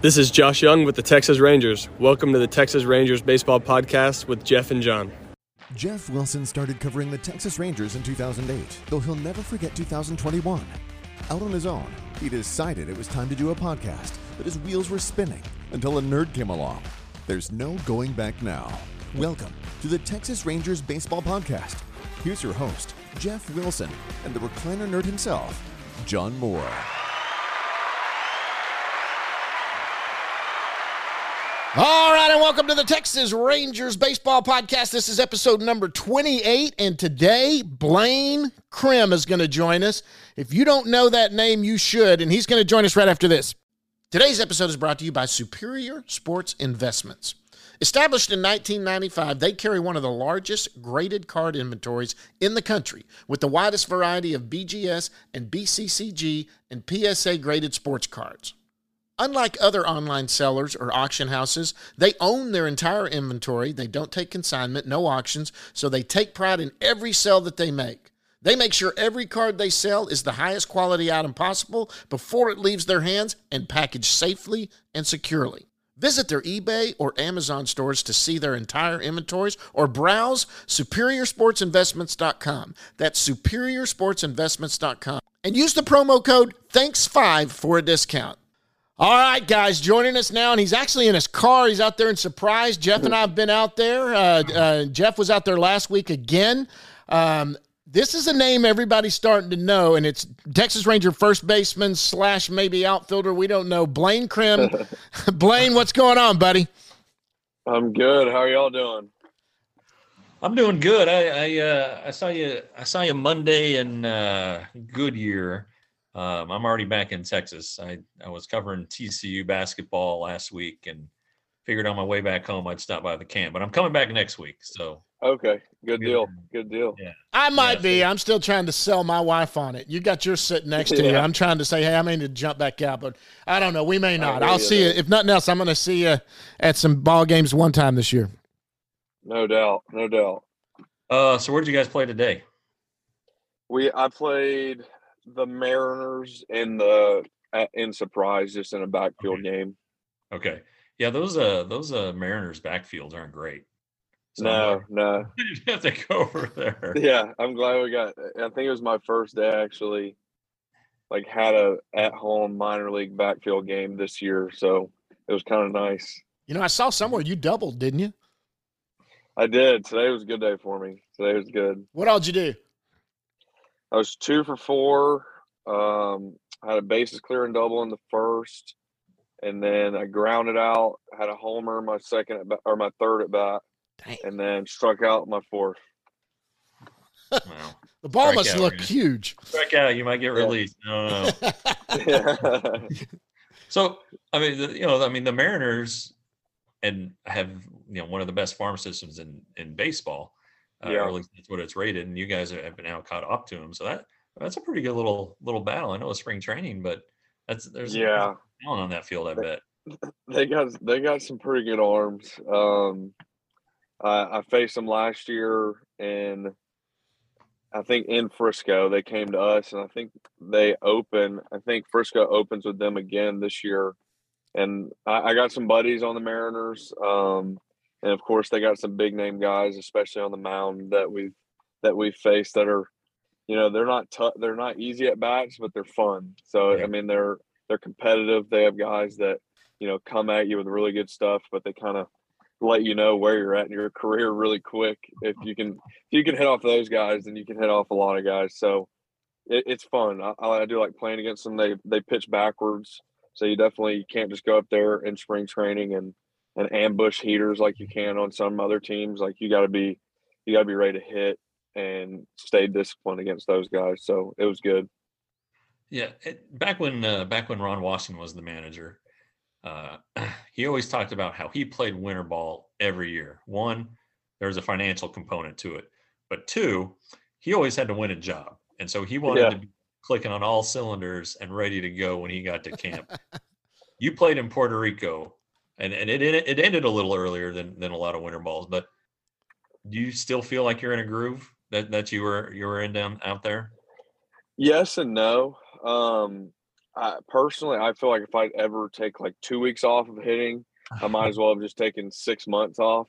This is Josh Young with the Texas Rangers. Welcome to the Texas Rangers Baseball Podcast with Jeff and John. Jeff Wilson started covering the Texas Rangers in 2008, though he'll never forget 2021. Out on his own, he decided it was time to do a podcast, but his wheels were spinning until a nerd came along. There's no going back now. Welcome to the Texas Rangers Baseball Podcast. Here's your host, Jeff Wilson, and the recliner nerd himself, John Moore. All right, and welcome to the Texas Rangers Baseball Podcast. This is episode number 28, and today, Blaine Crim is going to join us. If you don't know that name, you should, and he's going to join us right after this. Today's episode is brought to you by Superior Sports Investments. Established in 1995, they carry one of the largest graded card inventories in the country, with the widest variety of BGS and BCCG and PSA graded sports cards. Unlike other online sellers or auction houses, they own their entire inventory. They don't take consignment, no auctions, so they take pride in every sale that they make. They make sure every card they sell is the highest quality item possible before it leaves their hands and packaged safely and securely. Visit their eBay or Amazon stores to see their entire inventories or browse SuperiorSportsInvestments.com. That's SuperiorSportsInvestments.com. And use the promo code THANKS5 for a discount. All right, guys, joining us now, and he's actually in his car. He's out there in Surprise. Jeff and I have been out there. Jeff was out there last week again. This is a name everybody's starting to know, and it's Texas Ranger first baseman / maybe outfielder. We don't know. Blaine Crim. Blaine, what's going on, buddy? I'm good. How are y'all doing? I'm doing good. I saw you Monday in Goodyear. I'm already back in Texas. I was covering TCU basketball last week and figured on my way back home I'd stop by the camp. But I'm coming back next week. So okay, good deal. Good deal. Yeah. I might be. I'm still trying to sell my wife on it. You got yours sitting next to you. I'm trying to say, hey, I may need to jump back out, but I don't know. We may not. I'll see you. If nothing else, I'm going to see you at some ball games one time this year. No doubt. No doubt. So where'd you guys play today? I played the Mariners in Surprise, just in a backfield game. Okay. Yeah, those Mariners backfields aren't great. So No. You have to go over there. Yeah, I'm glad we got. I think it was my first day actually. Had a at-home minor league backfield game this year, so it was kind of nice. You know, I saw somewhere you doubled, didn't you? I did. Today was a good day for me. Today was good. What all did you do? I was 2 for 4. I had a bases clearing double in the first, and then I grounded out. Had a homer my third at bat, and then struck out my fourth. Wow. The ball must look huge. Strike out, you might get released. No. Yeah. So the Mariners and have one of the best farm systems in baseball. Or at least that's what it's rated, and you guys have been now caught up to them. So that's a pretty good little battle. I know it's spring training, but there's talent on that field. I bet they got some pretty good arms. I faced them last year, and I think in Frisco they came to us, and I think Frisco opens with them again this year. And I got some buddies on the Mariners. And of course, they got some big name guys, especially on the mound that we've faced that are, they're not easy at bats, but they're fun. So I mean, they're competitive. They have guys that come at you with really good stuff, but they kind of let you know where you're at in your career really quick. If you can hit off those guys, then you can hit off a lot of guys. So it's fun. I do like playing against them. They pitch backwards, so you can't just go up there in spring training and ambush heaters like you can on some other teams. You got to be ready to hit and stay disciplined against those guys. So it was good. Yeah, back when Ron Washington was the manager, he always talked about how he played winter ball every year. One, there was a financial component to it, but two, he always had to win a job, and so he wanted to be clicking on all cylinders and ready to go when he got to camp. You played in Puerto Rico. And it ended a little earlier than a lot of winter balls, but do you still feel like you're in a groove that you were in down out there? Yes and no. Personally, I feel like if I'd ever take like 2 weeks off of hitting, I might as well have just taken 6 months off.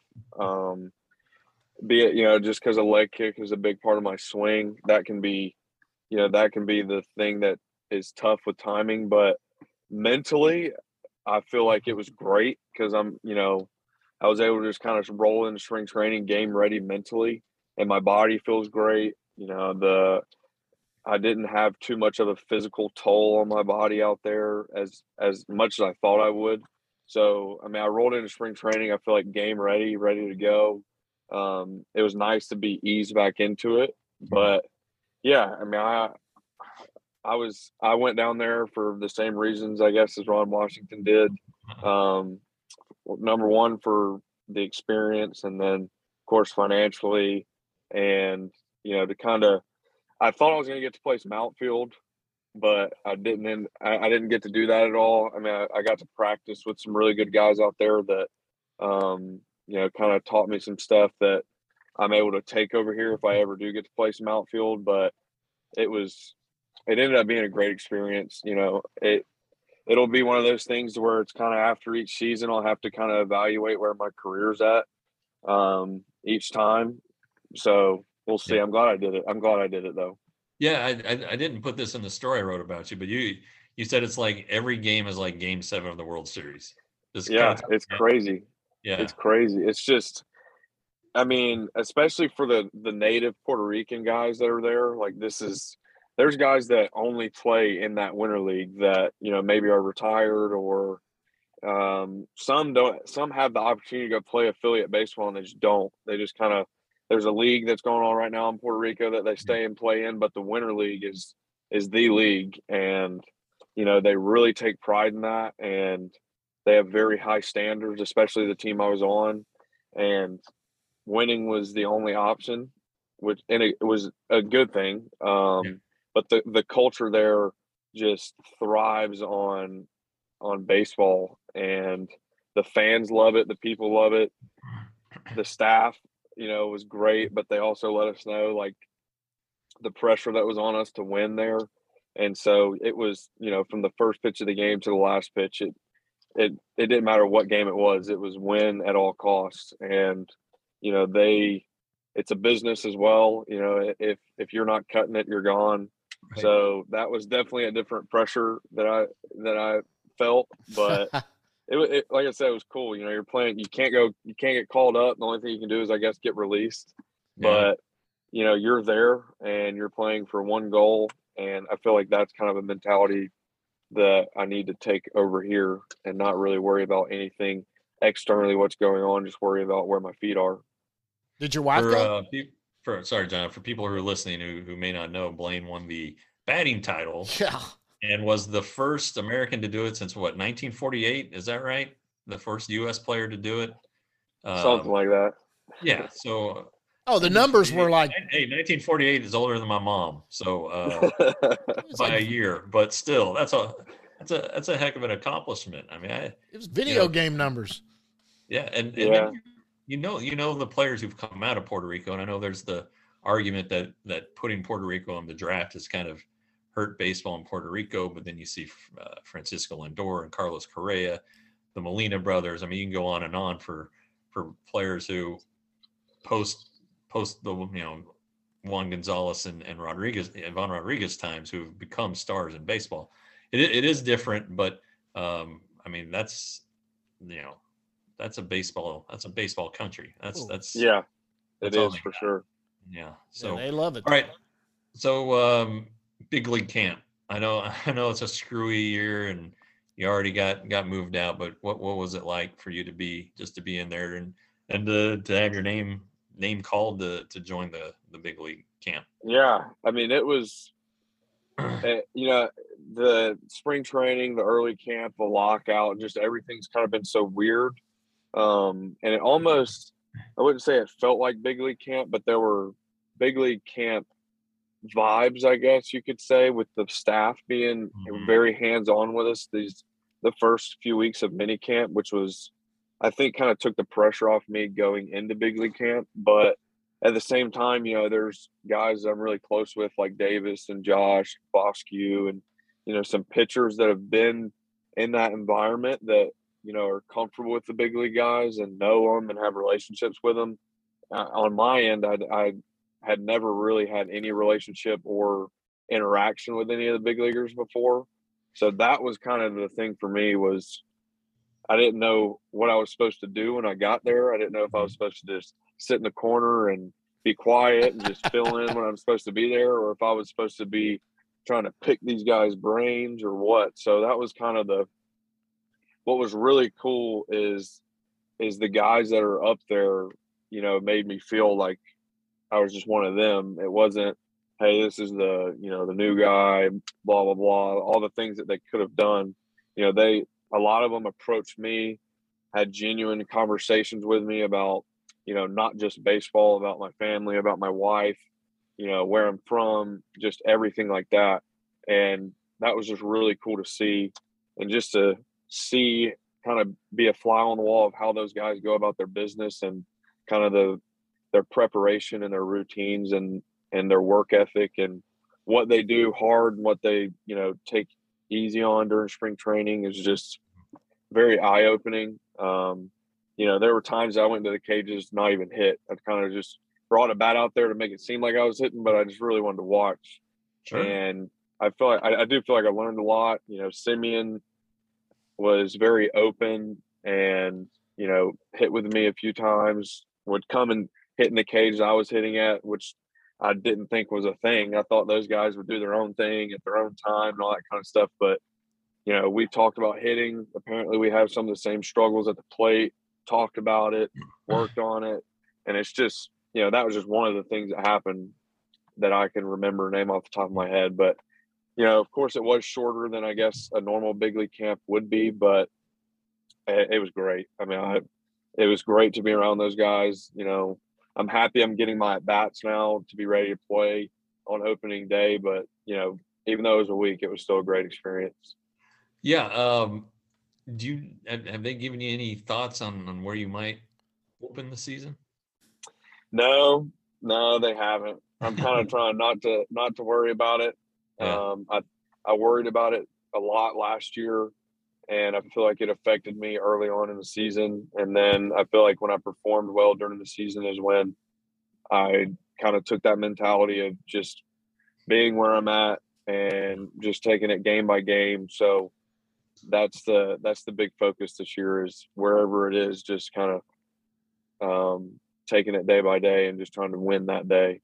Be it, just because a leg kick is a big part of my swing, that can be the thing that is tough with timing. But mentally, I feel like it was great because I was able to just kind of roll into spring training game ready mentally, and my body feels great. I didn't have too much of a physical toll on my body out there as much as I thought I would. So, I mean, I rolled into spring training. I feel like game ready to go. It was nice to be eased back into it, but yeah, I mean, I went down there for the same reasons, I guess, as Ron Washington did. Number one, for the experience, and then of course financially, and to kind of, I thought I was going to get to play some outfield, but I didn't. And I didn't get to do that at all. I mean, I got to practice with some really good guys out there that, kind of taught me some stuff that I'm able to take over here if I ever do get to play some outfield. But it ended up being a great experience. It'll be one of those things where it's kind of after each season, I'll have to kind of evaluate where my career's at each time. So we'll see. Yeah. I'm glad I did it. I'm glad I did it though. Yeah, I didn't put this in the story I wrote about you, but you said it's like every game is like Game 7 of the World Series. It's crazy. Yeah, it's crazy. It's just, I mean, especially for the native Puerto Rican guys that are there. Like there's guys that only play in that winter league that maybe are retired, or some don't. Some have the opportunity to go play affiliate baseball and they just don't. They just kind of, there's a league that's going on right now in Puerto Rico that they stay and play in, but the winter league is the league, and they really take pride in that, and they have very high standards, especially the team I was on, and winning was the only option, and it was a good thing. But the culture there just thrives on baseball, and the fans love it, the people love it, the staff was great, but they also let us know like the pressure that was on us to win there. And so it was, from the first pitch of the game to the last pitch, it didn't matter what game it was win at all costs. And it's a business as well. If you're not cutting it, you're gone. Right. So that was definitely a different pressure that I felt, but it like I said, it was cool. You're playing, you can't get called up. The only thing you can do is, I guess, get released. Yeah. But you're there and you're playing for one goal, and I feel like that's kind of a mentality that I need to take over here and not really worry about anything externally, what's going on, just worry about where my feet are. Did your wife go? Sorry, John, for people who are listening who may not know, Blaine won the batting title. Yeah. And was the first American to do it since 1948? Is that right? The first U.S. player to do it? Something like that. Yeah. So. Oh, the numbers were like. Hey, 1948 is older than my mom, so by a year. But still, that's a heck of an accomplishment. I mean, it was video game numbers. Yeah, and then the players who've come out of Puerto Rico, and I know there's the argument that putting Puerto Rico on the draft has kind of hurt baseball in Puerto Rico, but then you see Francisco Lindor and Carlos Correa, the Molina brothers. I mean, you can go on and on for players who post the Juan Gonzalez and Ivan Rodriguez times who've become stars in baseball. It is different, but I mean that's a baseball country. That's yeah, it is for sure. Yeah, so they love it. All right, so big league camp. I know it's a screwy year and you already got moved out, but what was it like for you to be in there and to have your name called to join the big league camp? Yeah, I mean, it was the spring training, the early camp, the lockout, just everything's kind of been so weird, and it almost, I wouldn't say it felt like big league camp, but there were big league camp vibes, I guess you could say, with the staff being very hands-on with us the first few weeks of mini camp, which was, I think, kind of took the pressure off me going into big league camp. But at the same time, there's guys I'm really close with, like Davis and Josh Bosque, and some pitchers that have been in that environment that, are comfortable with the big league guys and know them and have relationships with them. On my end, I had never really had any relationship or interaction with any of the big leaguers before. So that was kind of the thing for me, was I didn't know what I was supposed to do when I got there. I didn't know if I was supposed to just sit in the corner and be quiet and just fill in when I'm supposed to be there, or if I was supposed to be trying to pick these guys' brains or what. So that was kind of what was really cool is the guys that are up there, made me feel like I was just one of them. It wasn't, hey, this is the new guy, blah, blah, blah, all the things that they could have done. A lot of them approached me, had genuine conversations with me about, not just baseball, about my family, about my wife, where I'm from, just everything like that. And that was just really cool to see. And just to see, kind of be a fly on the wall of how those guys go about their business and kind of their preparation and their routines and their work ethic and what they do hard and what they, take easy on during spring training is just very eye-opening. There were times I went to the cages not even hit. I kind of just brought a bat out there to make it seem like I was hitting, but I just really wanted to watch. Sure. And I feel like I do feel like I learned a lot. Simeon was very open and, hit with me a few times, would come and hit in the cage I was hitting at, which I didn't think was a thing. I thought those guys would do their own thing at their own time and all that kind of stuff. But, we talked about hitting. Apparently we have some of the same struggles at the plate, talked about it, worked on it. And it's just, that was just one of the things that happened that I can remember, name off the top of my head. But, of course it was shorter than I guess a normal big league camp would be, but it was great. I mean, it was great to be around those guys. I'm happy I'm getting my at-bats now to be ready to play on opening day. But, even though it was a week, it was still a great experience. Yeah. Have they given you any thoughts on where you might open the season? No, they haven't. I'm kind of trying not to worry about it. Yeah. I worried about it a lot last year, and I feel like it affected me early on in the season. And then I feel like when I performed well during the season is when I kind of took that mentality of just being where I'm at and just taking it game by game. So that's the big focus this year, is wherever it is, just kind of taking it day by day and just trying to win that day.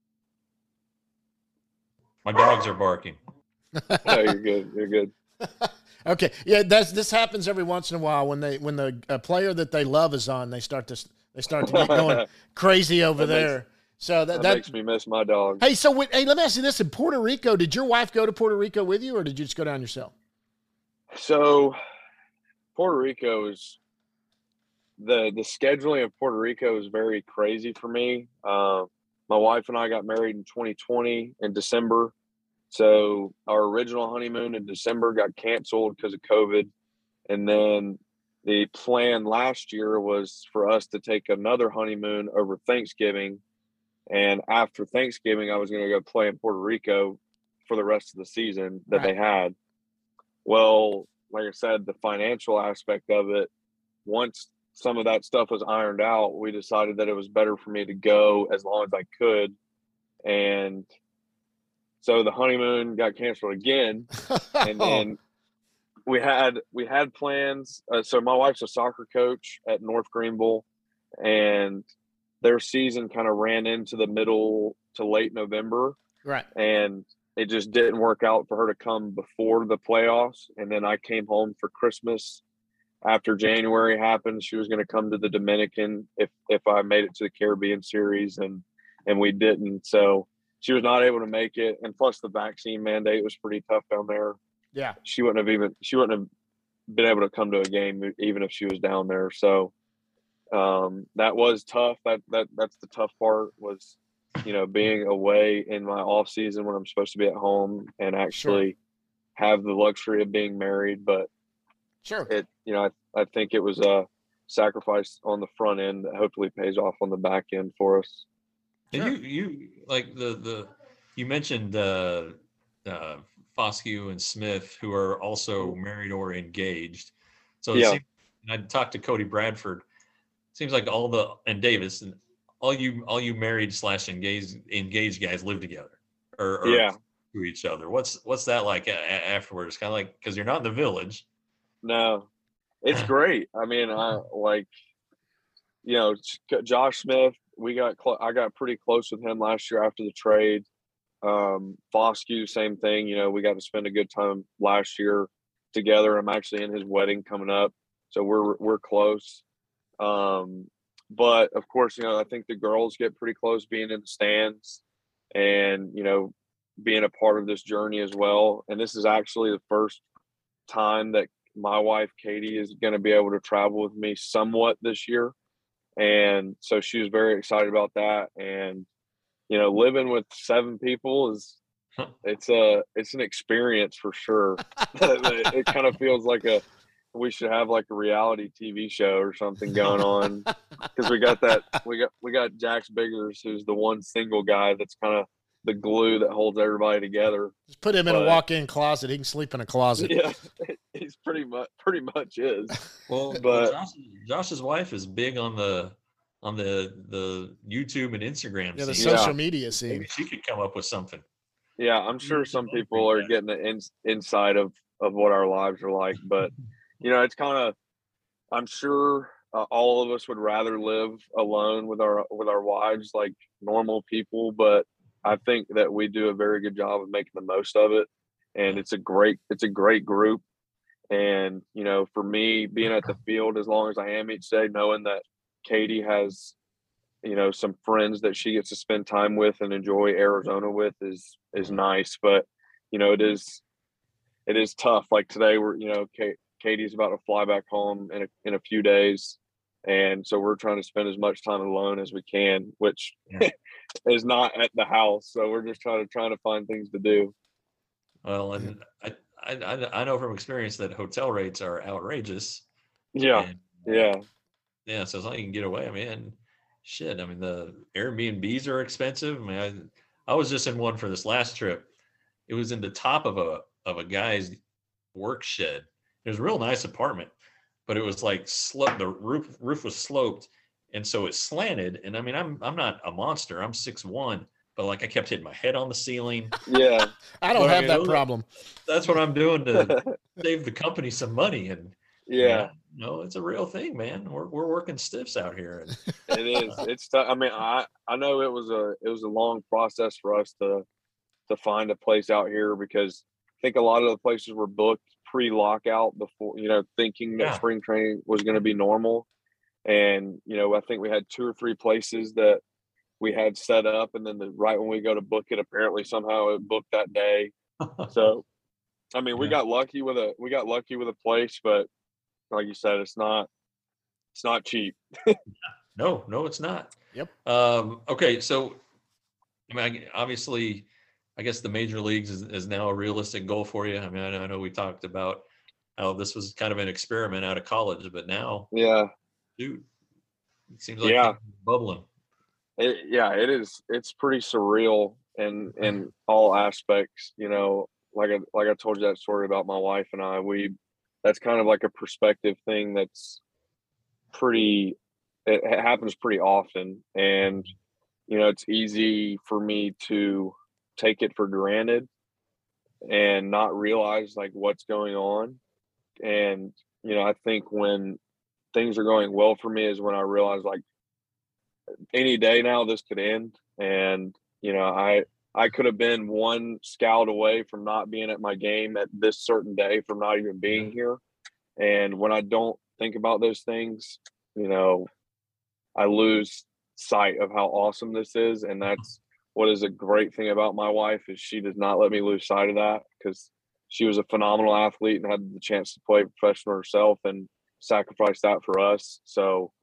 My dogs are barking. No, you're good. You're good. Okay. Yeah, this happens every once in a while when the player that they love is on, they start to get going crazy over there. So that makes me miss my dog. Hey, so let me ask you this: in Puerto Rico, did your wife go to Puerto Rico with you, or did you just go down yourself? So Puerto Rico is the scheduling of Puerto Rico is very crazy for me. My wife and I got married in 2020 in December. So our original honeymoon in December got canceled because of COVID. And then the plan last year was for us to take another honeymoon over Thanksgiving. And after Thanksgiving, I was going to go play in Puerto Rico for the rest of the season that they had. Well, like I said, the financial aspect of it, once some of that stuff was ironed out, we decided that it was better for me to go as long as I could. And so the honeymoon got canceled again. And then we had plans. So my wife's a soccer coach at North Greenville, and their season kind of ran into the middle to late November. Right. And it just didn't work out for her to come before the playoffs. And then I came home for Christmas. After January happened, she was going to come to the Dominican if I made it to the Caribbean series, and we didn't. So she was not able to make it. And plus the vaccine mandate was pretty tough down there. Yeah. She wouldn't have been able to come to a game even if she was down there. So that was tough. That's the tough part, was, being away in my off season when I'm supposed to be at home and actually have the luxury of being married. But I think it was a sacrifice on the front end that hopefully pays off on the back end for us. And you like you mentioned Foscue and Smith, who are also married or engaged. So it Yeah. seems, and I talked to Cody Bradford. Seems like and Davis and all you married / engaged guys live together or Yeah. to each other. What's that like afterwards? Kind of like, because you're not in the village. No, it's great. I mean, I like, Josh Smith. I got pretty close with him last year after the trade. Foscue, same thing. We got to spend a good time last year together. I'm actually in his wedding coming up, so we're close. But of course, I think the girls get pretty close being in the stands and, being a part of this journey as well. And this is actually the first time that my wife, Katie, is going to be able to travel with me somewhat this year. And so she was very excited about that. And, living with 7 people it's an experience for sure. It kind of feels like we should have like a reality TV show or something going on, because we got Jax Biggers, who's the one single guy that's kind of the glue that holds everybody together. Just put him in a walk-in closet. He can sleep in a closet. Yeah, he's pretty much is. Well, but Josh's wife is big on the YouTube and Instagram. Yeah, the scene. social media scene. Maybe she could come up with something. Yeah, I'm sure some people are getting the inside of what our lives are like, but it's kind of, I'm sure all of us would rather live alone with our wives like normal people, but I think that we do a very good job of making the most of it, and it's a great group. And for me, being at the field as long as I am each day, knowing that Katie has some friends that she gets to spend time with and enjoy Arizona with is nice. But it is tough. Like today, we're Katie's about to fly back home in a few days, and so we're trying to spend as much time alone as we can, which is not at the house. So we're just trying to find things to do. Well, and I know from experience that hotel rates are outrageous. Yeah, yeah. So as long as you can get away, I mean, shit. I mean, the Airbnbs are expensive. I mean, I was just in one for this last trip. It was in the top of a guy's work shed. It was a real nice apartment, but it was like the roof was sloped, and so it slanted. And I mean, I'm not a monster. I'm 6'1", but like I kept hitting my head on the ceiling. Yeah, I don't have that problem. That's what I'm doing to save the company some money. And it's a real thing, man. We're working stiffs out here. It is. It's tough. I mean, I know it was a long process for us to find a place out here, because I think a lot of the places were booked pre-lockout before, thinking that spring training was going to be normal. And, I think we had 2 or 3 places that we had set up, and then right when we go to book it, apparently somehow it booked that day. So, I mean, we got lucky with a place, but like you said, it's not cheap. No, it's not. Yep. Okay. So, I mean, obviously, I guess the major leagues is now a realistic goal for you. I mean, I know we talked about how this was kind of an experiment out of college, but now, dude, it seems like it's bubbling. It is. It's pretty surreal in all aspects. Like I told you that story about my wife and I. That's kind of like a perspective thing. It happens pretty often, and it's easy for me to take it for granted and not realize like what's going on. And I think when things are going well for me is when I realize like any day now this could end. And I could have been one scout away from not being at my game at this certain day, from not even being here. And when I don't think about those things, I lose sight of how awesome this is. And that's what is a great thing about my wife, is she does not let me lose sight of that, because she was a phenomenal athlete and had the chance to play professional herself and sacrifice that for us. So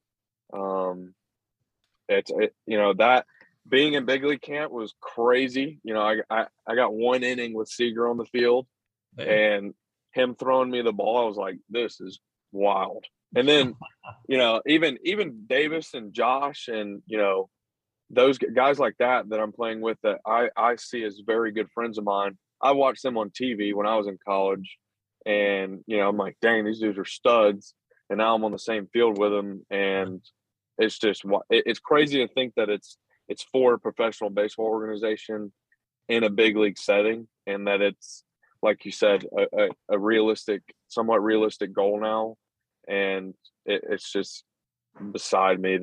that being in big league camp was crazy. I got 1 inning with Seager on the field, and him throwing me the ball, I was like, this is wild. And then, even Davis and Josh and, those guys like that I'm playing with, that I see as very good friends of mine, I watched them on TV when I was in college, and I'm like, dang, these dudes are studs. And now I'm on the same field with them, and it's just it's crazy to think that it's for a professional baseball organization in a big league setting, and that it's, like you said, a realistic, somewhat realistic goal now. And it's just beside me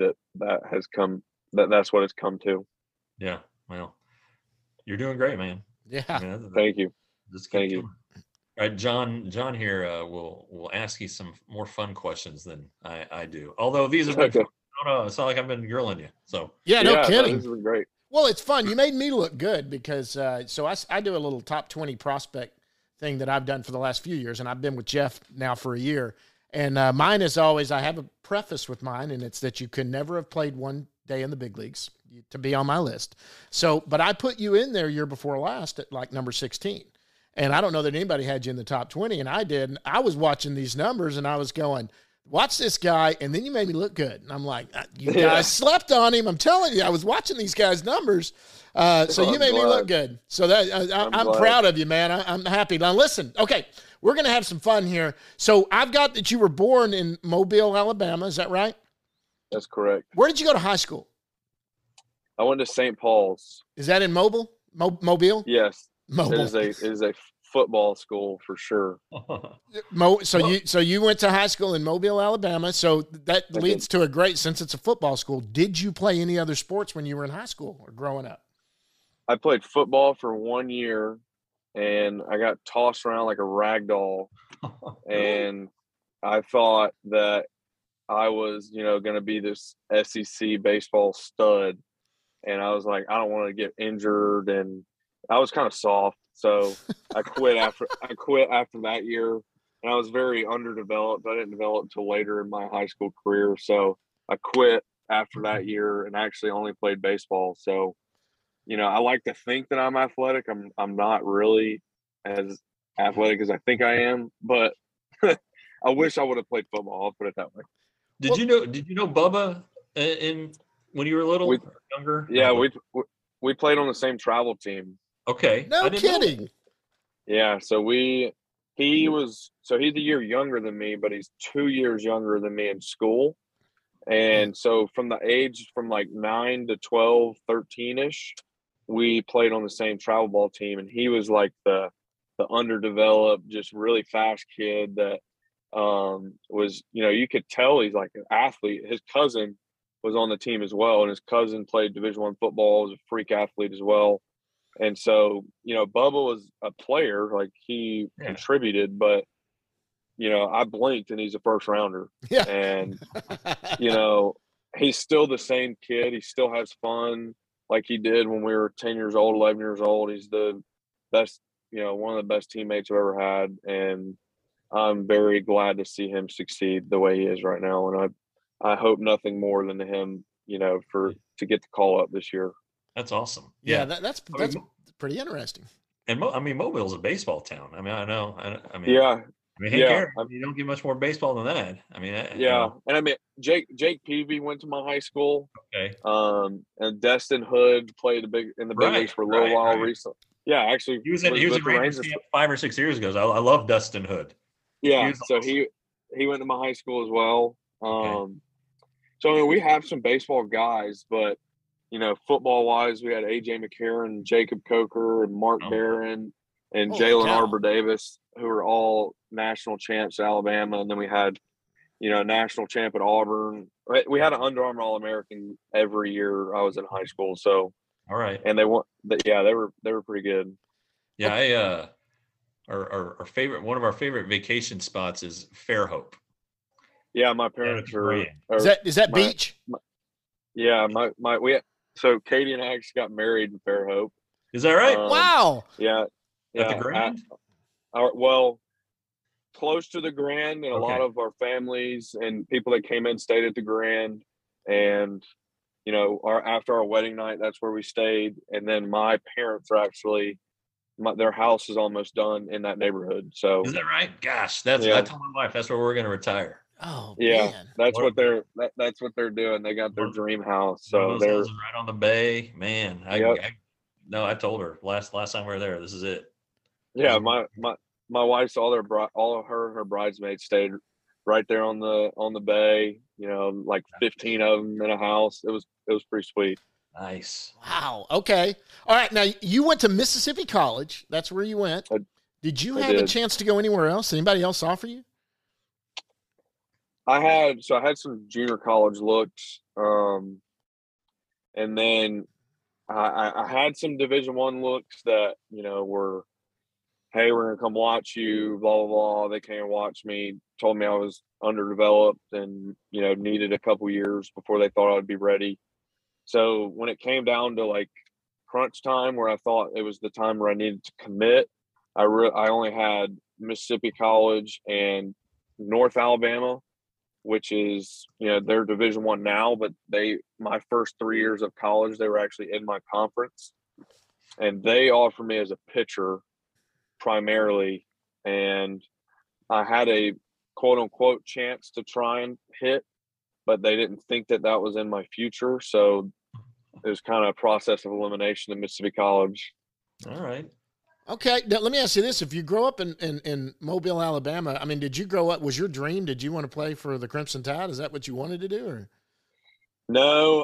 that's what it's come to. Yeah. Well, you're doing great, man. Yeah. I mean, Thank you. just Thank keep you. doing it. All right, John here will ask you some more fun questions than I do. Although these have been fun. No, it's not like I've been grilling you. So Yeah, no kidding. This has been great. Well, it's fun. You made me look good because I do a little top 20 prospect thing that I've done for the last few years, and I've been with Jeff now for a year. And mine is always, I have a preface with mine, and it's that you could never have played one day in the big leagues to be on my list. So, but I put you in there year before last at like number 16. And I don't know that anybody had you in the top 20, and I did. And I was watching these numbers, and I was going, watch this guy, and then you made me look good. And I'm like, you guys slept on him. I'm telling you, I was watching these guys' numbers. So you made me look good. So that I'm proud of you, man. I'm happy. Now listen, okay, we're going to have some fun here. So I've got that you were born in Mobile, Alabama. Is that right? That's correct. Where did you go to high school? I went to St. Paul's. Is that in Mobile? Mobile? Yes. Mobile. It is a football school for sure. So you went to high school in Mobile, Alabama. So that leads to a great, since it's a football school. Did you play any other sports when you were in high school or growing up? I played football for 1 year, and I got tossed around like a rag doll. And I thought that I was, going to be this SEC baseball stud. And I was like, I don't want to get injured, and I was kind of soft. So I quit after that year, and I was very underdeveloped. I didn't develop until later in my high school career. So I quit after that year and actually only played baseball. So, I like to think that I'm athletic. I'm not really as athletic as I think I am, but I wish I would have played football. I'll put it that way. Did you know Bubba when you were little or younger? Yeah, we played on the same travel team. Okay. No kidding. Yeah, so he's a year younger than me, but he's 2 years younger than me in school. And so from the age from like 9 to 12, 13-ish, we played on the same travel ball team. And he was like the underdeveloped, just really fast kid that was, you could tell he's like an athlete. His cousin was on the team as well, and his cousin played Division I football, was a freak athlete as well. And so, Bubba was a player, like he contributed, but, I blinked and he's a first rounder. Yeah. And, he's still the same kid. He still has fun like he did when we were 10 years old, 11 years old. He's the best, one of the best teammates I've ever had. And I'm very glad to see him succeed the way he is right now. And I hope nothing more than him, to get the call up this year. That's awesome. Yeah, that's pretty interesting. And Mobile's a baseball town. I mean, I know. Yeah. You don't get much more baseball than that. I mean, And I mean, Jake Peavy went to my high school. Okay. And Destin Hood played in the big leagues for a little while recently. Yeah, actually, he was in Rangers camp 5 or 6 years ago. So I love Dustin Hood. Yeah, so awesome. he went to my high school as well. Okay. So I mean, we have some baseball guys, but football wise, we had AJ McCarron, Jacob Coker, and Mark Barron, and Jalen Arbor Davis, who are all national champs at Alabama. And then we had, a national champ at Auburn. We had an Under Armour All-American every year I was in high school. So, all right. And they were pretty good. Yeah. Our favorite, one of our favorite vacation spots is Fairhope. Yeah. My parents is that beach? So Katie and I actually got married in Fairhope. Is that right? Wow. Yeah. At the Grand? Close to the Grand, and a lot of our families and people that came in stayed at the Grand. And, after our wedding night, that's where we stayed. And then my parents are actually, their house is almost done in that neighborhood. So is that right? Gosh, I told my wife that's where we're going to retire. Oh, yeah, man. that's what they're doing. They got their dream house. So they're right on the bay, man. I told her last time we were there, this is it. Yeah, my wife's all of her and her bridesmaids stayed right there on the bay. You know, like 15 of them in a house. It was pretty sweet. Nice. Wow. Okay. All right. Now you went to Mississippi College. That's where you went. Did you have a chance to go anywhere else? Anybody else offer you? I had some junior college looks, and then I had some Division I looks that, you know, were, hey, we're gonna come watch you, blah blah blah. They came and watched me, told me I was underdeveloped and, you know, needed a couple years before they thought I'd be ready. So when it came down to like crunch time, where I thought it was the time where I needed to commit, I only had Mississippi College and North Alabama, which is, you know, they're Division I now, but my first 3 years of college, they were actually in my conference, and they offered me as a pitcher primarily, and I had a quote unquote chance to try and hit, but they didn't think that was in my future. So it was kind of a process of elimination in Mississippi College. All right. Okay. Now, let me ask you this. If you grow up in Mobile, Alabama, I mean, did you grow up, was your dream, did you want to play for the Crimson Tide? Is that what you wanted to do? Or? No,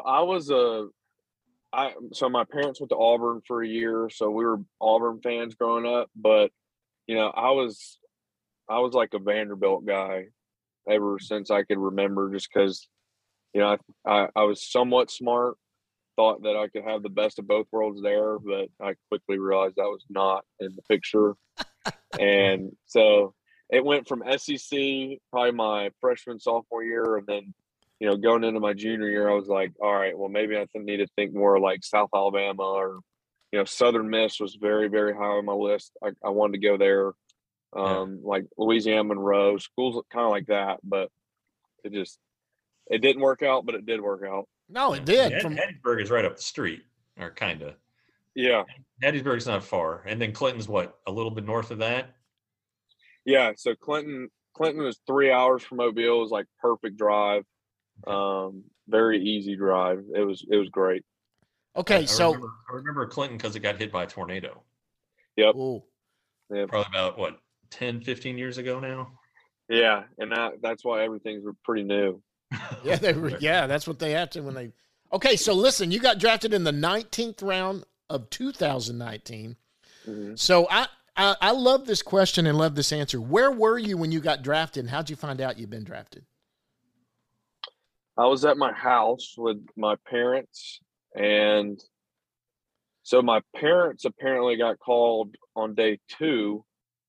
so my parents went to Auburn for a year. So we were Auburn fans growing up, but you know, I was like a Vanderbilt guy ever since I could remember, just because, you know, I was somewhat smart, thought that I could have the best of both worlds there, but I quickly realized that was not in the picture. And so it went from SEC probably my freshman, sophomore year, and then, you know, going into my junior year, I was like, all right, well, maybe I need to think more like South Alabama, or, you know, Southern Miss was very, very high on my list. I wanted to go there. Like Louisiana Monroe, schools kind of like that, but it didn't work out, but it did work out. No, it did. Hattiesburg is right up the street, or kind of. Yeah. Hattiesburg's not far. And then Clinton's what, a little bit north of that? Yeah. So Clinton was 3 hours from Mobile. It was like perfect drive. Very easy drive. It was great. Okay. I remember Clinton because it got hit by a tornado. Yep. Ooh. Yeah. Probably about what, 10, 15 years ago now? Yeah. And that's why everything's pretty new. Yeah, that's what they have to when they. Okay, so listen, you got drafted in the 19th round of 2019. Mm-hmm. So I love this question and love this answer. Where were you when you got drafted, and how'd you find out you'd been drafted? I was at my house with my parents, and so my parents apparently got called on day 2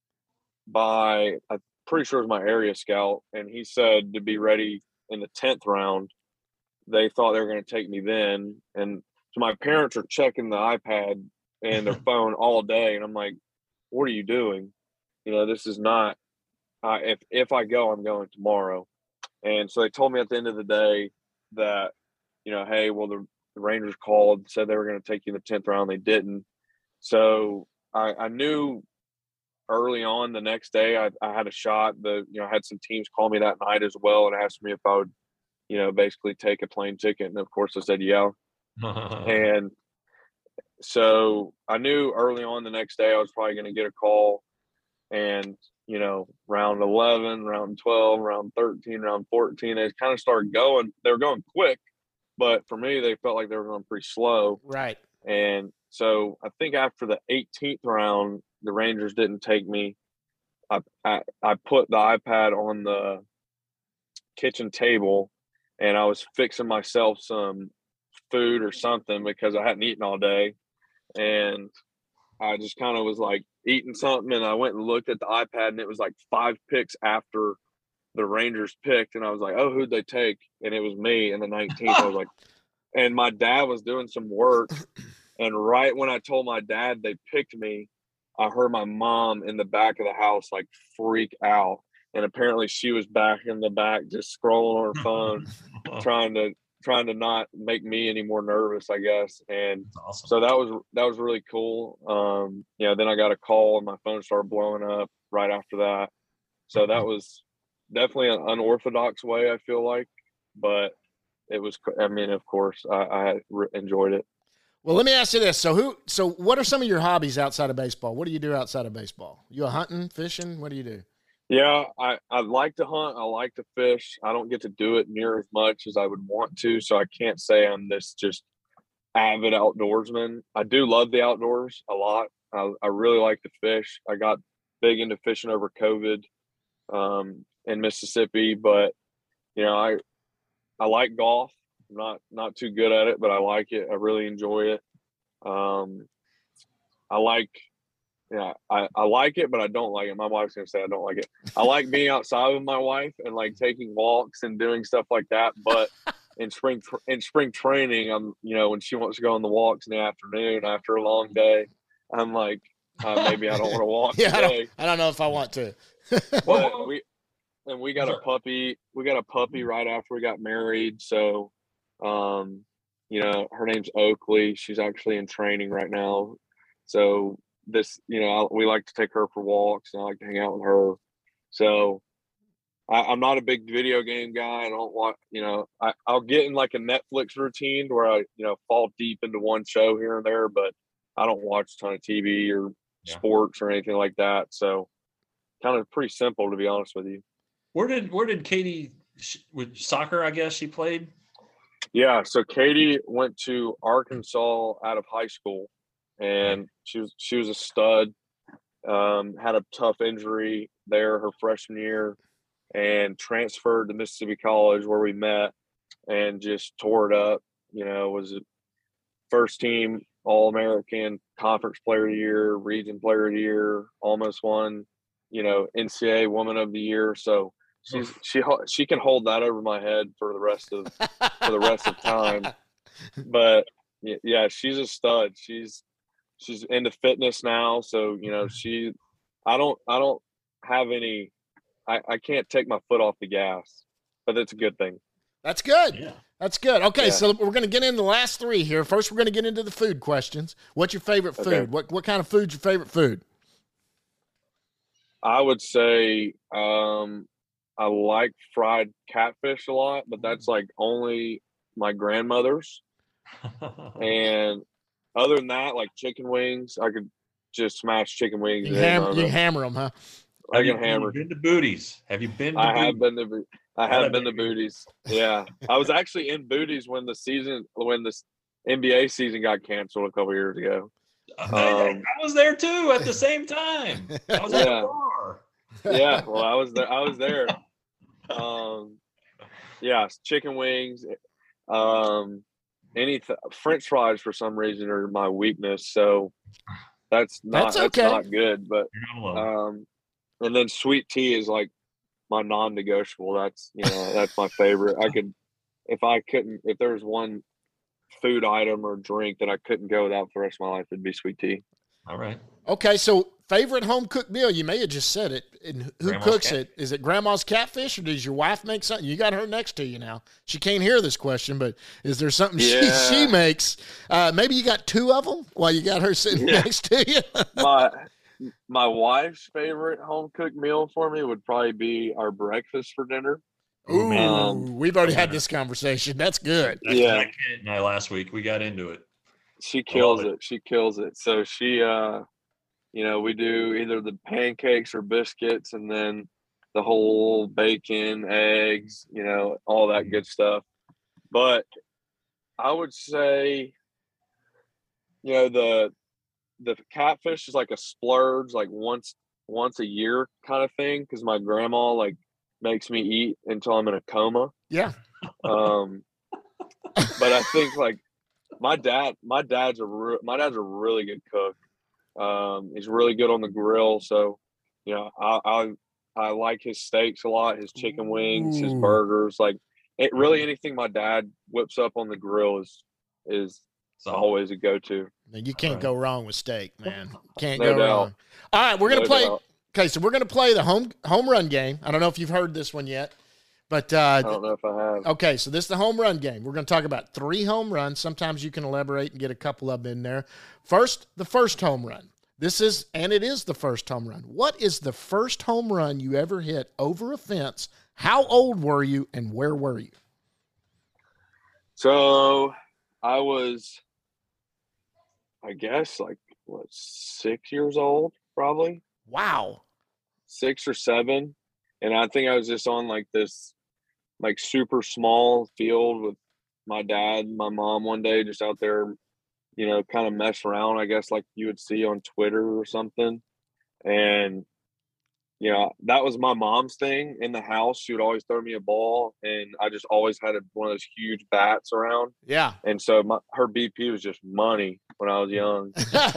by, I'm pretty sure it was my area scout, and he said to be ready in the 10th round. They thought they were going to take me then, and so my parents are checking the iPad and their phone all day, and I'm like, what are you doing? You know, this is not, if I go, I'm going tomorrow. And so they told me at the end of the day that, you know, hey, well, the Rangers called, said they were going to take you in the 10th round. They didn't. So I knew early on the next day I had a shot. I had some teams call me that night as well and asked me if I would, you know, basically take a plane ticket. And of course I said, yeah. And so I knew early on the next day I was probably going to get a call. And, you know, round 11, round 12, round 13, round 14, they kind of started going. They were going quick, but for me, they felt like they were going pretty slow. Right. And so I think after the 18th round, the Rangers didn't take me. I put the iPad on the kitchen table, and I was fixing myself some food or something because I hadn't eaten all day. And I just kind of was like eating something, and I went and looked at the iPad, and it was like 5 picks after the Rangers picked. And I was like, oh, who'd they take? And it was me in the 19th. I was like, and my dad was doing some work. And right when I told my dad they picked me, I heard my mom in the back of the house like freak out. And apparently she was back in the back just scrolling on her phone, trying to not make me any more nervous, I guess. And awesome. So that was really cool. Then I got a call and my phone started blowing up right after that. So that was definitely an unorthodox way, I feel like, but it was, I mean, of course I enjoyed it. Well, let me ask you this. So what are some of your hobbies outside of baseball? What do you do outside of baseball? You hunting, fishing? What do you do? Yeah, I like to hunt. I like to fish. I don't get to do it near as much as I would want to, so I can't say I'm this just avid outdoorsman. I do love the outdoors a lot. I really like to fish. I got big into fishing over COVID in Mississippi, but I like golf. I'm not too good at it, but I like it. I really enjoy it. I like it, but I don't like it. My wife's gonna say I don't like it. I like being outside with my wife and like taking walks and doing stuff like that. But in spring training, I'm when she wants to go on the walks in the afternoon after a long day, I'm like maybe I don't want to walk today. I don't know if I want to. But we got a puppy. We got a puppy right after we got married. So, her name's Oakley. She's actually in training right now. So we like to take her for walks and I like to hang out with her. So I'm not a big video game guy. I don't want, I'll get in like a Netflix routine where I, fall deep into one show here and there, but I don't watch a ton of TV or sports or anything like that. So kind of pretty simple, to be honest with you. Where did Katie with soccer? I guess she played. Yeah, so Katie went to Arkansas out of high school, and she was a stud. Had a tough injury there her freshman year, and transferred to Mississippi College where we met, and just tore it up. Was a first team All-American, Conference Player of the Year, Region Player of the Year, almost won, NCAA Woman of the Year. So she can hold that over my head for the rest of time. But yeah, she's a stud. She's into fitness now. So, I don't have any, I can't take my foot off the gas, but it's a good thing. That's good. Yeah. That's good. Okay. Yeah. So we're going to get into the last three here. First, we're going to get into the food questions. What's your favorite food? Okay. What kind of food's your favorite food? I would say, I like fried catfish a lot, but that's like only my grandmother's. And other than that, like chicken wings, I could just smash chicken wings. You hammer them, huh? I can hammer. Have you been to Booties? Have you been to I Booties? have been to Booties. Yeah. I was actually in Booties when this NBA season got canceled a couple years ago. I was there too at the same time. I was at the bar. Yeah, well, I was there. Yeah, chicken wings. French fries for some reason are my weakness, so that's not good. But and then sweet tea is like my non-negotiable. That's that's my favorite. If there was one food item or drink that I couldn't go without for the rest of my life, it'd be sweet tea. All right. Okay, so favorite home cooked meal? You may have just said it. And who Grandma's cooks it? Is it Grandma's catfish, or does your wife make something? You got her next to you now. She can't hear this question, but is there something she makes? Maybe you got two of them while you got her sitting next to you. My wife's favorite home cooked meal for me would probably be our breakfast for dinner. Ooh, we've already had this conversation. That's good. That's Kent and I last week. We got into it. She kills it. She kills it. So she, we do either the pancakes or biscuits, and then the whole bacon, eggs, all that good stuff. But I would say, the catfish is like a splurge, like once a year kind of thing, because my grandma makes me eat until I'm in a coma. Yeah. But I think my dad's a really good cook. He's really good on the grill. So, I like his steaks a lot, his chicken wings, his burgers. Anything my dad whips up on the grill is always a go-to. You can't go wrong with steak, man. Can't go wrong. All right, we're gonna play. Okay, so we're gonna play the home run game. I don't know if you've heard this one yet, but I don't know if I have. Okay, so this is the home run game. We're gonna talk about 3 home runs. Sometimes you can elaborate and get a couple of them in there. First, the first home run. It is the first home run. What is the first home run you ever hit over a fence? How old were you, and where were you? So I was I guess like what, 6 years old, probably Wow. 6 or 7. And I think I was just on like this like super small field with my dad and my mom one day, just out there, kind of mess around, I guess, like you would see on Twitter or something. And that was my mom's thing in the house. She would always throw me a ball, and I just always had one of those huge bats around. Yeah. And so her BP was just money when I was young.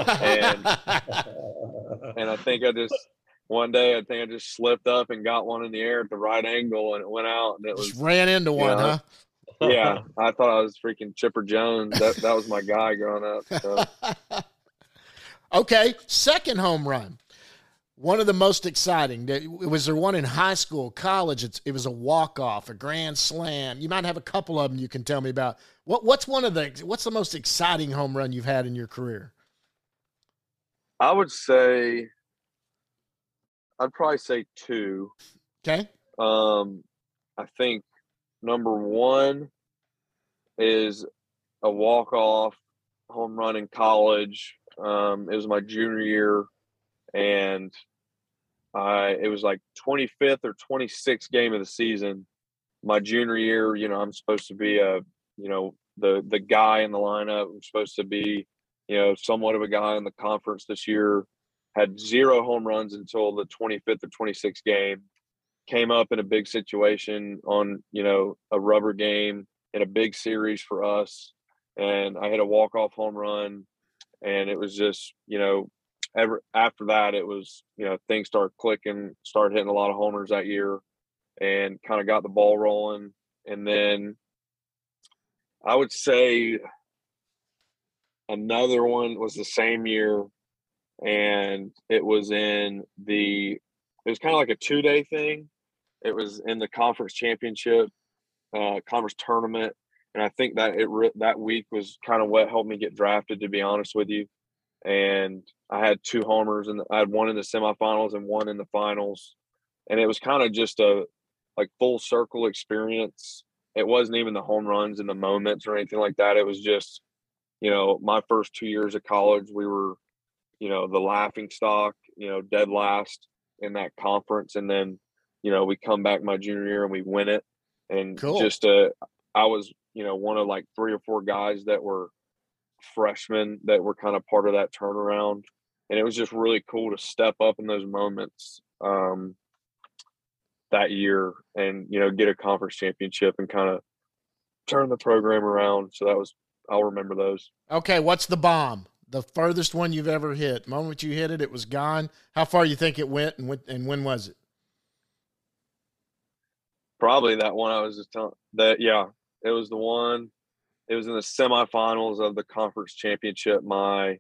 And I think one day I just slipped up and got one in the air at the right angle, and it went out, and it Just was ran into one, huh? Yeah, I thought I was freaking Chipper Jones. That was my guy growing up. So. Okay, second home run. One of the most exciting. Was there one in high school, college? It was a walk-off, a grand slam. You might have a couple of them you can tell me about. What's the most exciting home run you've had in your career? I would say, I'd probably say 2. Okay. I think number 1 is a walk-off home run in college. It was my junior year, and it was like 25th or 26th game of the season. My junior year, I'm supposed to be the guy in the lineup. I'm supposed to be, somewhat of a guy in the conference this year. Had 0 home runs until the 25th or 26th game. Came up in a big situation on, a rubber game in a big series for us. And I hit a walk-off home run, and it was just, after that, it was, things started clicking, started hitting a lot of homers that year, and kind of got the ball rolling. And then I would say another one was the same year, and it was it was kind of like a 2-day thing. It was in the conference championship, conference tournament. And I think that that week was kind of what helped me get drafted, to be honest with you. And I had 2 homers, and I had one in the semifinals and one in the finals. And it was kind of just a full circle experience. It wasn't even the home runs and the moments or anything like that. It was just, my first 2 years of college, we were, the laughing stock, dead last in that conference. And then, we come back my junior year and we win it. And cool. I was, one of like 3 or 4 guys that were freshmen that were kind of part of that turnaround. And it was just really cool to step up in those moments that year and, get a conference championship and kind of turn the program around. So I'll remember those. Okay, what's the bomb? The furthest one you've ever hit. The moment you hit it, it was gone. How far you think it went, and when was it? Probably that one I was just telling that. Yeah, it was the one. It was in the semifinals of the conference championship. My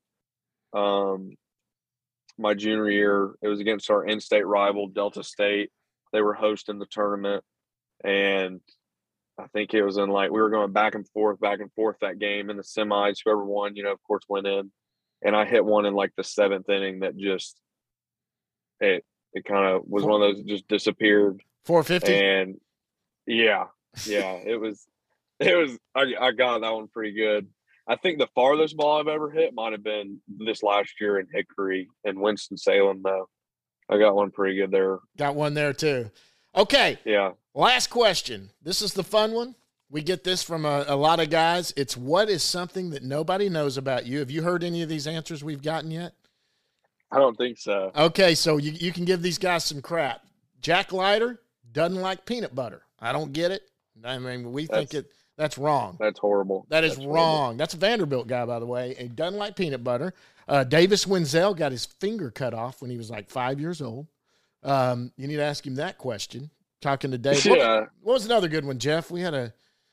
junior year, it was against our in-state rival, Delta State. They were hosting the tournament, and I think it was we were going back and forth that game in the semis. Whoever won, of course, went in. And I hit one in the 7th inning that just it kind of was one of those that just disappeared. 450. And yeah, it was. I got that one pretty good. I think the farthest ball I've ever hit might have been this last year in Hickory and Winston-Salem, though. I got one pretty good there. Got one there too. Okay. Yeah. Last question. This is the fun one. We get this from a lot of guys. It's, what is something that nobody knows about you? Have you heard any of these answers we've gotten yet? I don't think so. Okay, so you can give these guys some crap. Jack Leiter doesn't like peanut butter. I don't get it. I mean, that's wrong. That's horrible. That's wrong. Horrible. That's a Vanderbilt guy, by the way. He doesn't like peanut butter. Davis Wenzel got his finger cut off when he was 5 years old. You need to ask him that question. Talking to Dave. Yeah. What was another good one, Jeff? We had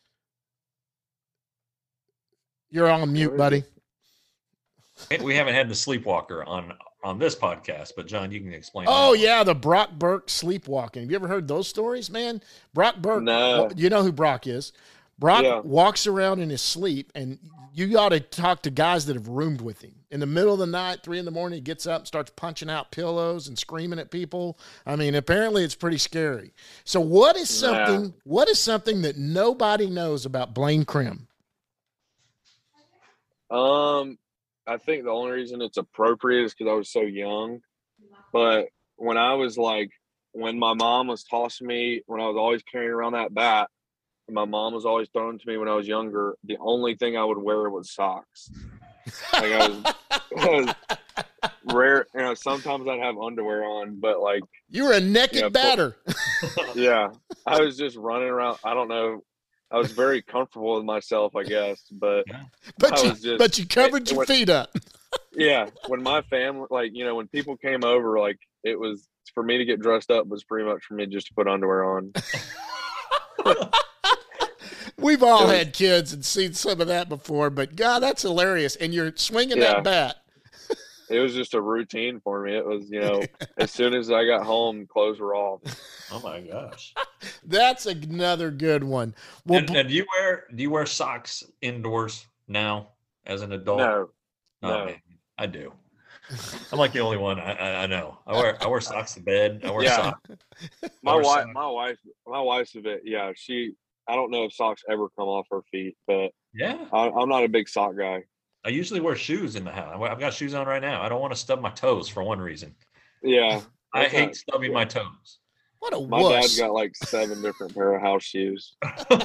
You're on mute, buddy. We haven't had the sleepwalker on this podcast, but John, you can explain. Oh, yeah, the Brock Burke sleepwalking. Have you ever heard those stories, man? Brock Burke, no. You know who Brock is. Brock walks around in his sleep, and you ought to talk to guys that have roomed with him. In the middle of the night, 3 a.m, he gets up and starts punching out pillows and screaming at people. I mean, apparently it's pretty scary. So what is something that nobody knows about Blaine Crim? I think the only reason it's appropriate is because I was so young. But when I was like, when my mom was tossing me, when I was always carrying around that bat, and my mom was always throwing to me when I was younger, the only thing I would wear was socks. Like I was rare, sometimes I'd have underwear on, but like you were a naked batter. Yeah. I was just running around. I don't know. I was very comfortable with myself, I guess, but you covered your feet up. Yeah. When my family, like, when people came over, like it was for me to get dressed up was pretty much for me just to put underwear on. We've all had kids and seen some of that before, but God, that's hilarious. And you're swinging that bat. It was just a routine for me. It was, as soon as I got home, clothes were off. Oh my gosh. That's another good one. Well, and do you wear socks indoors now as an adult? No. Man, I do. I'm like the only one. I know. I wear socks to bed. I wear socks. My wife's a bit. Yeah, I don't know if socks ever come off her feet, but yeah, I'm not a big sock guy. I usually wear shoes in the house. I've got shoes on right now. I don't want to stub my toes for one reason. Yeah, I hate stubbing my toes. What a My dad's got like 7 different pair of house shoes.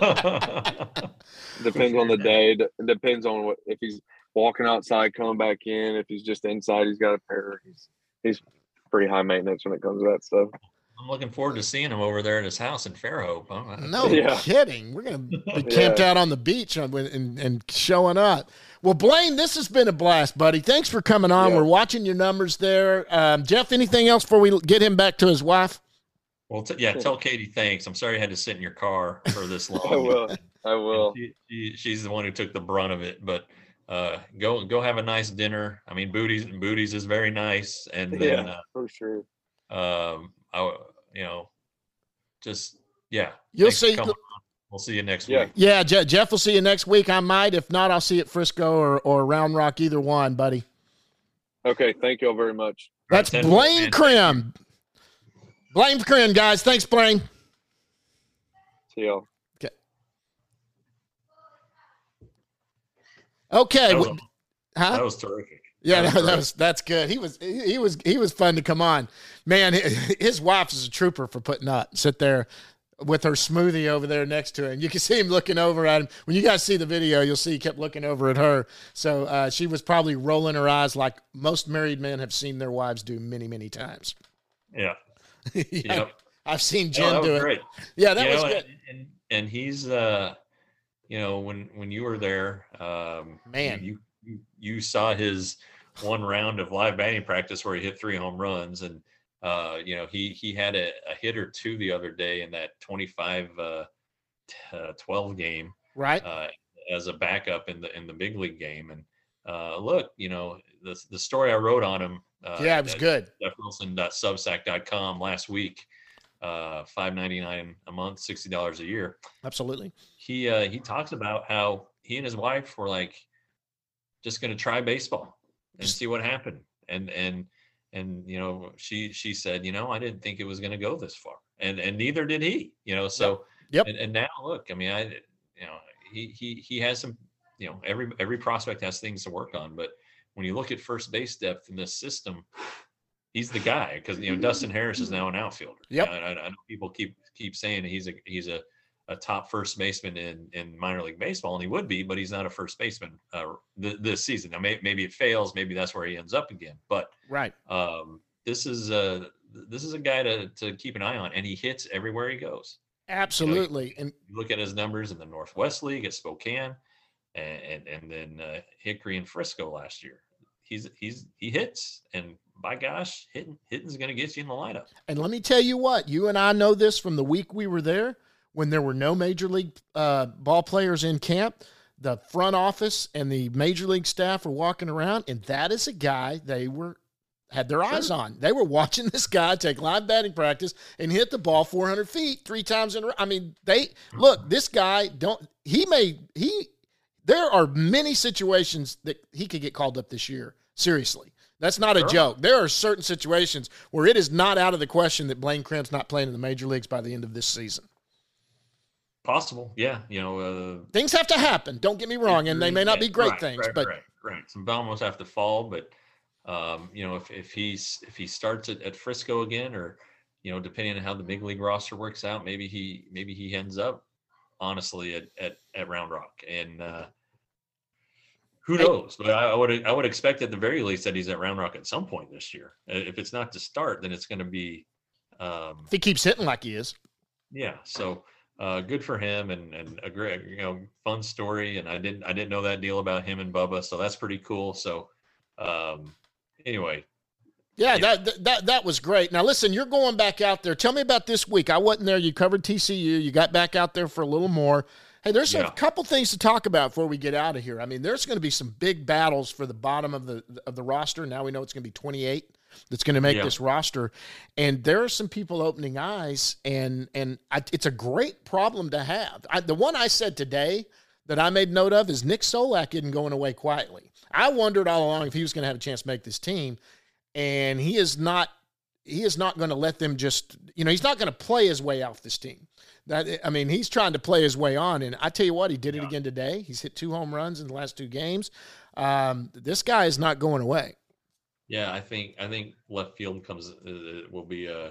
Depends on the day. It depends on if he's walking outside, coming back in. If he's just inside, he's got a pair. He's pretty high maintenance when it comes to that stuff. I'm looking forward to seeing him over there at his house in Fairhope. No kidding. We're going to be camped out on the beach and showing up. Well, Blaine, this has been a blast, buddy. Thanks for coming on. We're watching your numbers there. Jeff, anything else before we get him back to his wife? Well, tell Katie thanks. I'm sorry I had to sit in your car for this long. I will. She's the one who took the brunt of it, but go have a nice dinner. I mean, Booties is very nice, and then for sure. You'll see. We'll see you next week. Yeah, Jeff will see you next week. I might. If not, I'll see you at Frisco or Round Rock, either one, buddy. Okay, thank you all very much. That's Blaine Crim. Blaine Crim, guys. Thanks, Blaine. See y'all. Okay. That was terrific. Yeah, that's good. He was fun to come on. Man, his wife is a trooper for putting up. Sit there with her smoothie over there next to him. You can see him looking over at him. When you guys see the video, you'll see he kept looking over at her. So she was probably rolling her eyes like most married men have seen their wives do many, many times. Yeah. Yep. I've seen Jen do it. Great. Yeah, that was good. And he's when you were there, man, you saw his one round of live batting practice where he hit 3 home runs, and he had a hit or two the other day in that 25-12 game, right? As a backup in the big league game. And look, the story I wrote on him. It was good. JeffWilson.substack.com last week. $5.99 a month, $60 a year. Absolutely. He talks about how he and his wife were like just going to try baseball and see what happened. And she said, I didn't think it was going to go this far, and neither did he. So yep. And now look, I mean, he has some. Every prospect has things to work on, but when you look at first base depth in this system, he's the guy, because Dustin Harris is now an outfielder. Yep. I know people keep saying he's a top first baseman in minor league baseball, and he would be, but he's not a first baseman this season. Now maybe it fails, maybe that's where he ends up again. But right, this is a guy to keep an eye on, and he hits everywhere he goes. Absolutely. And you look at his numbers in the Northwest League at Spokane, and then Hickory and Frisco last year. He hits, and by gosh, hitting's going to get you in the lineup. And let me tell you what, you and I know this from the week we were there when there were no major league ball players in camp. The front office and the major league staff were walking around, and that is a guy they had their eyes on. They were watching this guy take live batting practice and hit the ball 400 feet 3 times in a row. I mean, this guy there are many situations that he could get called up this year. Seriously. That's not a joke. There are certain situations where it is not out of the question that Blaine Crim's not playing in the major leagues by the end of this season. Possible, yeah. Things have to happen. Don't get me wrong, and they may not be great right, things, right, but right. Some dominoes have to fall, but if he starts at Frisco again, or depending on how the big league roster works out, maybe he ends up honestly at Round Rock, and who knows? But I would expect at the very least that he's at Round Rock at some point this year. If it's not to start, then it's going to be. If he keeps hitting like he is, yeah. So good for him, and a great fun story. And I didn't know that deal about him and Bubba, so that's pretty cool. So anyway. Yeah, that was great. Now, listen, you're going back out there. Tell me about this week. I wasn't there. You covered TCU. You got back out there for a little more. Hey, there's a couple things to talk about before we get out of here. I mean, there's going to be some big battles for the bottom of the roster. Now we know it's going to be 28 that's going to make this roster. And there are some people opening eyes, and it's a great problem to have. The one I said today that I made note of is Nick Solak isn't going away quietly. I wondered all along if he was going to have a chance to make this team. And he is not going to let them just, he's not going to play his way off this team. He's trying to play his way on. And I tell you what, he did it again today. He's hit 2 home runs in the last 2 games. This guy is not going away. Yeah, I think left field will be a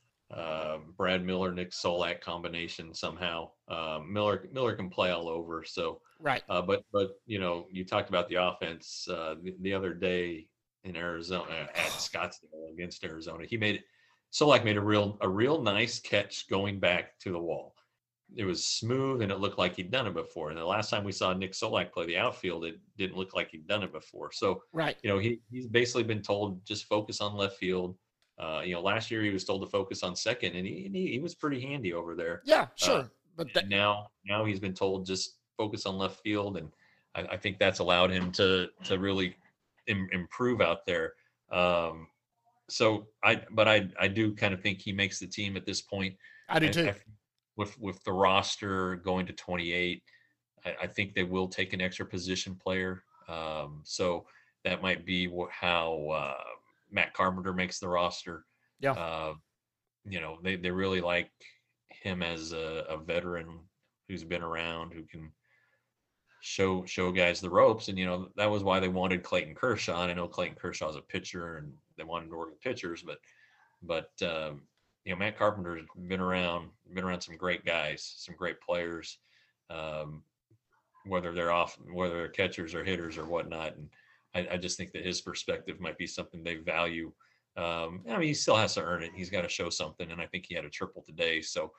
Brad Miller, Nick Solak combination somehow. Miller can play all over. So right. But you talked about the offense the other day in Arizona at Scottsdale against Arizona. Solak made a real nice catch going back to the wall. It was smooth and it looked like he'd done it before. And the last time we saw Nick Solak play the outfield, it didn't look like he'd done it before. So right, he's basically been told just focus on left field. Last year he was told to focus on second, and he was pretty handy over there. Yeah, sure. But now he's been told just focus on left field, and I think that's allowed him to really improve out there. So I do kind of think he makes the team at this point. I do too. With the roster going to 28, I think they will take an extra position player. So that might be how Matt Carpenter makes the roster. Yeah. They really like him as a veteran who's been around, who can show guys the ropes. And that was why they wanted Clayton Kershaw. And I know Clayton Kershaw is a pitcher and they wanted to work with pitchers, but Matt Carpenter's been around some great guys, some great players, whether they're catchers or hitters or whatnot. And I just think that his perspective might be something they value. He still has to earn it. He's got to show something. And I think he had a triple today. So,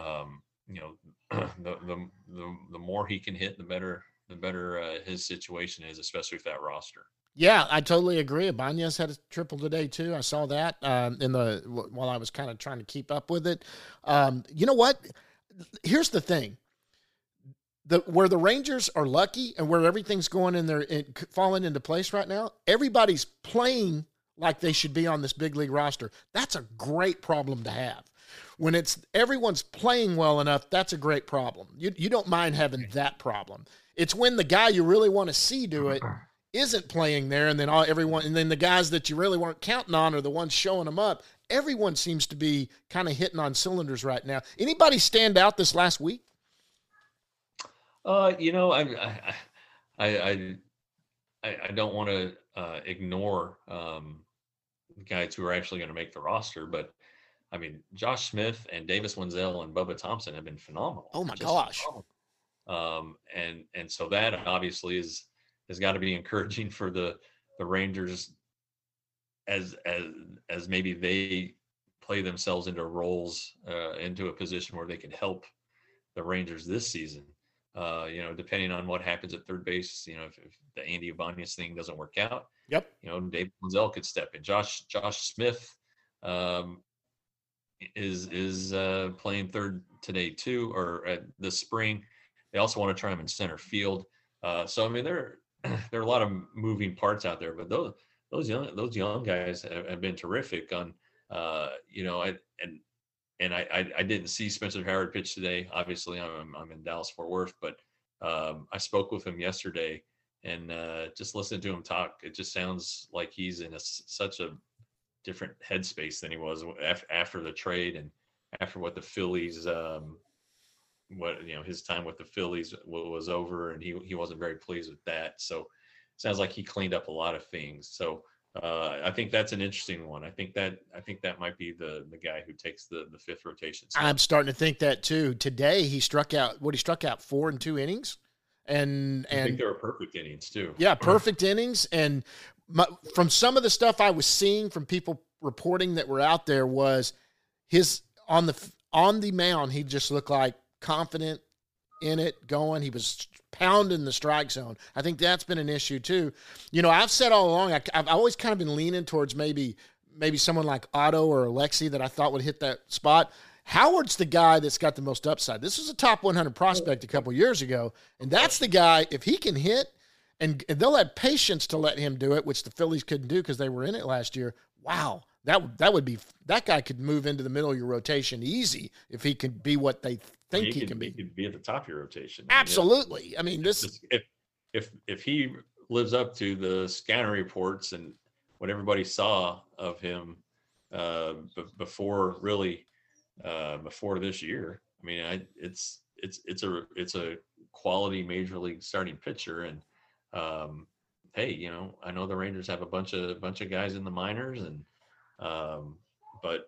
the more he can hit, the better his situation is, especially with that roster. Yeah, I totally agree. Ibanez had a triple today too. I saw that while I was kind of trying to keep up with it. You know what? Here's the thing. Where the Rangers are lucky and where everything's going falling into place right now, everybody's playing like they should be on this big league roster. That's a great problem to have. When everyone's playing well enough, that's a great problem. You don't mind having that problem. It's when the guy you really want to see do it isn't playing there, and then the guys that you really weren't counting on are the ones showing them up. Everyone seems to be kind of hitting on cylinders right now. Anybody stand out this last week? I don't want to ignore guys who are actually going to make the roster, but I mean, Josh Smith and Davis Wenzel and Bubba Thompson have been phenomenal. Oh my gosh! And so that obviously has got to be encouraging for the Rangers as maybe they play themselves into roles into a position where they can help the Rangers this season. Depending on what happens at third base, if the Andy Ibanez thing doesn't work out, David Wenzel could step in. Josh Smith is playing third today too, or this spring. They also want to try him in center field. So I mean, there are a lot of moving parts out there, but those young guys have been terrific. On I didn't see Spencer Howard pitch today. Obviously, I'm in Dallas Fort Worth, but I spoke with him yesterday, and just listening to him talk, it just sounds like he's in such a different headspace than he was after the trade and after what the Phillies what his time with the Phillies was over, and he wasn't very pleased with that. So sounds like he cleaned up a lot of things. So I think that's an interesting one. I think that might be the guy who takes the fifth rotation spot. I'm starting to think that too. Today he struck out 4 in 2 innings, and I think they were perfect innings too. Yeah, perfect innings. And from some of the stuff I was seeing from people reporting that were out there was his on the mound, he just looked like confident in it, going. He was pounding the strike zone. I think that's been an issue too. I've said all along, I've always kind of been leaning towards maybe someone like Otto or Alexi that I thought would hit that spot. Howard's the guy that's got the most upside. This was a top 100 prospect a couple years ago, and that's the guy, if he can hit, and they'll have patience to let him do it, which the Phillies couldn't do because they were in it last year. Wow, that guy could move into the middle of your rotation easy if he can be what they think he can be. He could be at the top of your rotation. Absolutely. I mean, if he lives up to the scanner reports and what everybody saw of him before this year, I mean, it's a quality major league starting pitcher, and hey, I know the Rangers have a bunch of guys in the minors, and but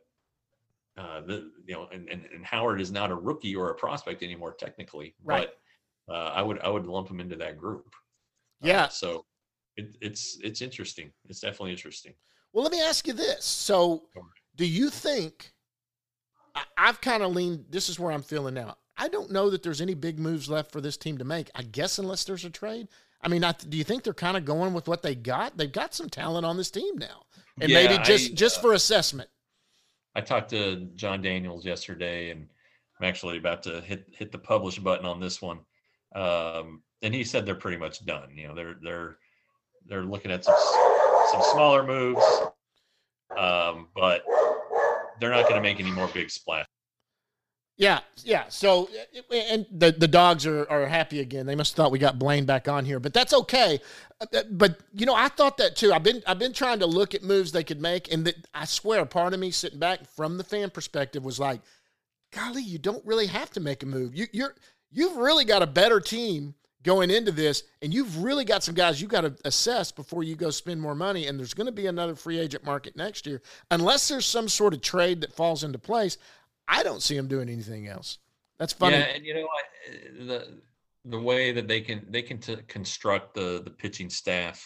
and Howard is not a rookie or a prospect anymore technically, right? But I would lump him into that group. Yeah. So it's interesting. It's definitely interesting. Well, let me ask you this. So, do you think? I've kind of leaned. This is where I'm feeling now. I don't know that there's any big moves left for this team to make. I guess unless there's a trade. I mean, do you think they're kind of going with what they got? They've got some talent on this team now, and maybe just for assessment. I talked to John Daniels yesterday, and I'm actually about to hit the publish button on this one. And he said they're pretty much done. They're looking at some smaller moves, but they're not going to make any more big splash. Yeah. So, and the dogs are happy again. They must have thought we got Blaine back on here, but that's okay. But I thought that too. I've been trying to look at moves they could make, and I swear, part of me sitting back from the fan perspective was like, golly, you don't really have to make a move. You've really got a better team going into this, and you've really got some guys you got to assess before you go spend more money. And there's going to be another free agent market next year, unless there's some sort of trade that falls into place. I don't see them doing anything else. That's funny. Yeah, and the way that they can construct the pitching staff,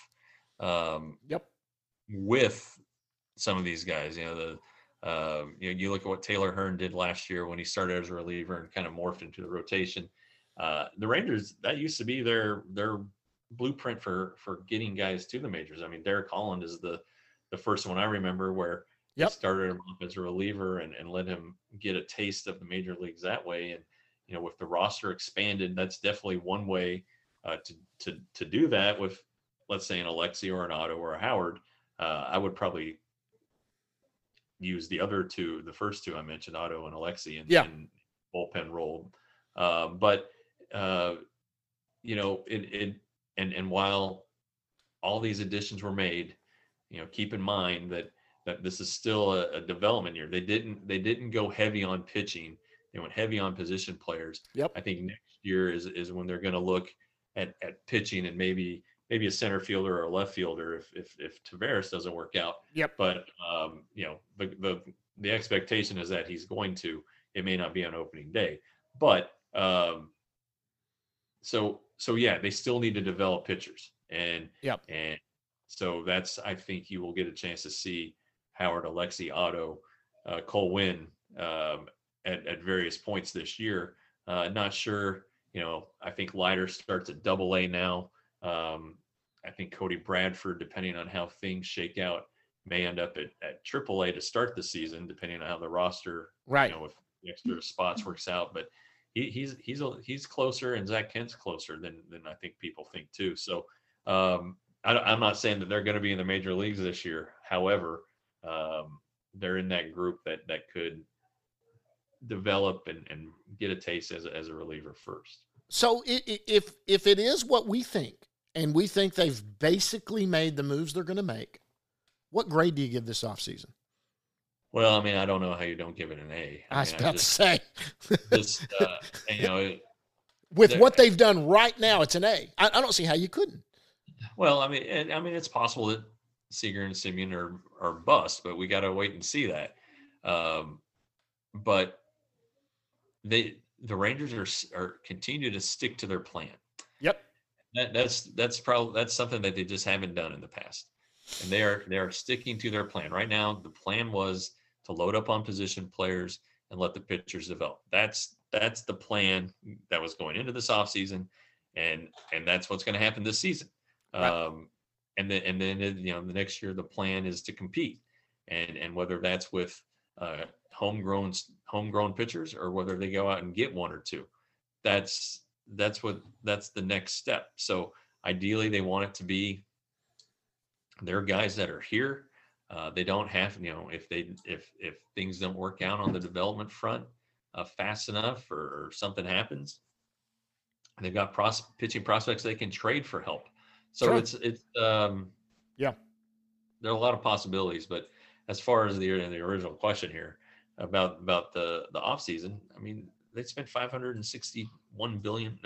with some of these guys. You look at what Taylor Hearn did last year when he started as a reliever and kind of morphed into the rotation. The Rangers, that used to be their blueprint for getting guys to the majors. I mean, Derek Holland is the first one I remember where. Yep. Started him off as a reliever and let him get a taste of the major leagues that way. And, with the roster expanded, that's definitely one way to do that with, let's say, an Alexi or an Otto or a Howard. I would probably use the first two I mentioned, Otto and Alexi, in bullpen role. But while all these additions were made, keep in mind that this is still a development year. They didn't go heavy on pitching. They went heavy on position players. Yep. I think next year is when they're going to look at pitching and maybe a center fielder or a left fielder if Tavares doesn't work out. Yep. But the expectation is that he's going to. It may not be on opening day, but so they still need to develop pitchers and so that's, I think you will get a chance to see Howard, Alexi, Otto, Cole Winn at various points this year. Not sure, I think Leiter starts at Double-A now. I think Cody Bradford, depending on how things shake out, may end up at Triple-A to start the season, depending on how the roster, if the extra spots works out. But he's closer, and Zach Kent's closer than I think people think too. So I'm not saying that they're going to be in the major leagues this year. However, they're in that group that could develop and get a taste as a reliever first. So if it is what we think, and we think they've basically made the moves they're going to make, what grade do you give this offseason? Well, I mean, I don't know how you don't give it an A. I was mean, about to say, just you know, with what they've done right now, it's an A. I don't see how you couldn't. well, I mean, it's possible that Seager and Simeon are bust, but we got to wait and see that. But the Rangers are continue to stick to their plan. Yep. That's something that they just haven't done in the past, and they are sticking to their plan right now. The plan was to load up on position players and let the pitchers develop. That's the plan that was going into this offseason, and that's what's going to happen this season. Right. And then the next year the plan is to compete, and whether that's with homegrown pitchers or whether they go out and get one or two, that's the next step. So ideally they want it to be their guys that are here. They don't have, if things don't work out on the development front fast enough or something happens, they've got pitching prospects they can trade for help. So Sure. it's Yeah. there are a lot of possibilities. But as far as the original question here about the offseason, I mean, they spent $561 million.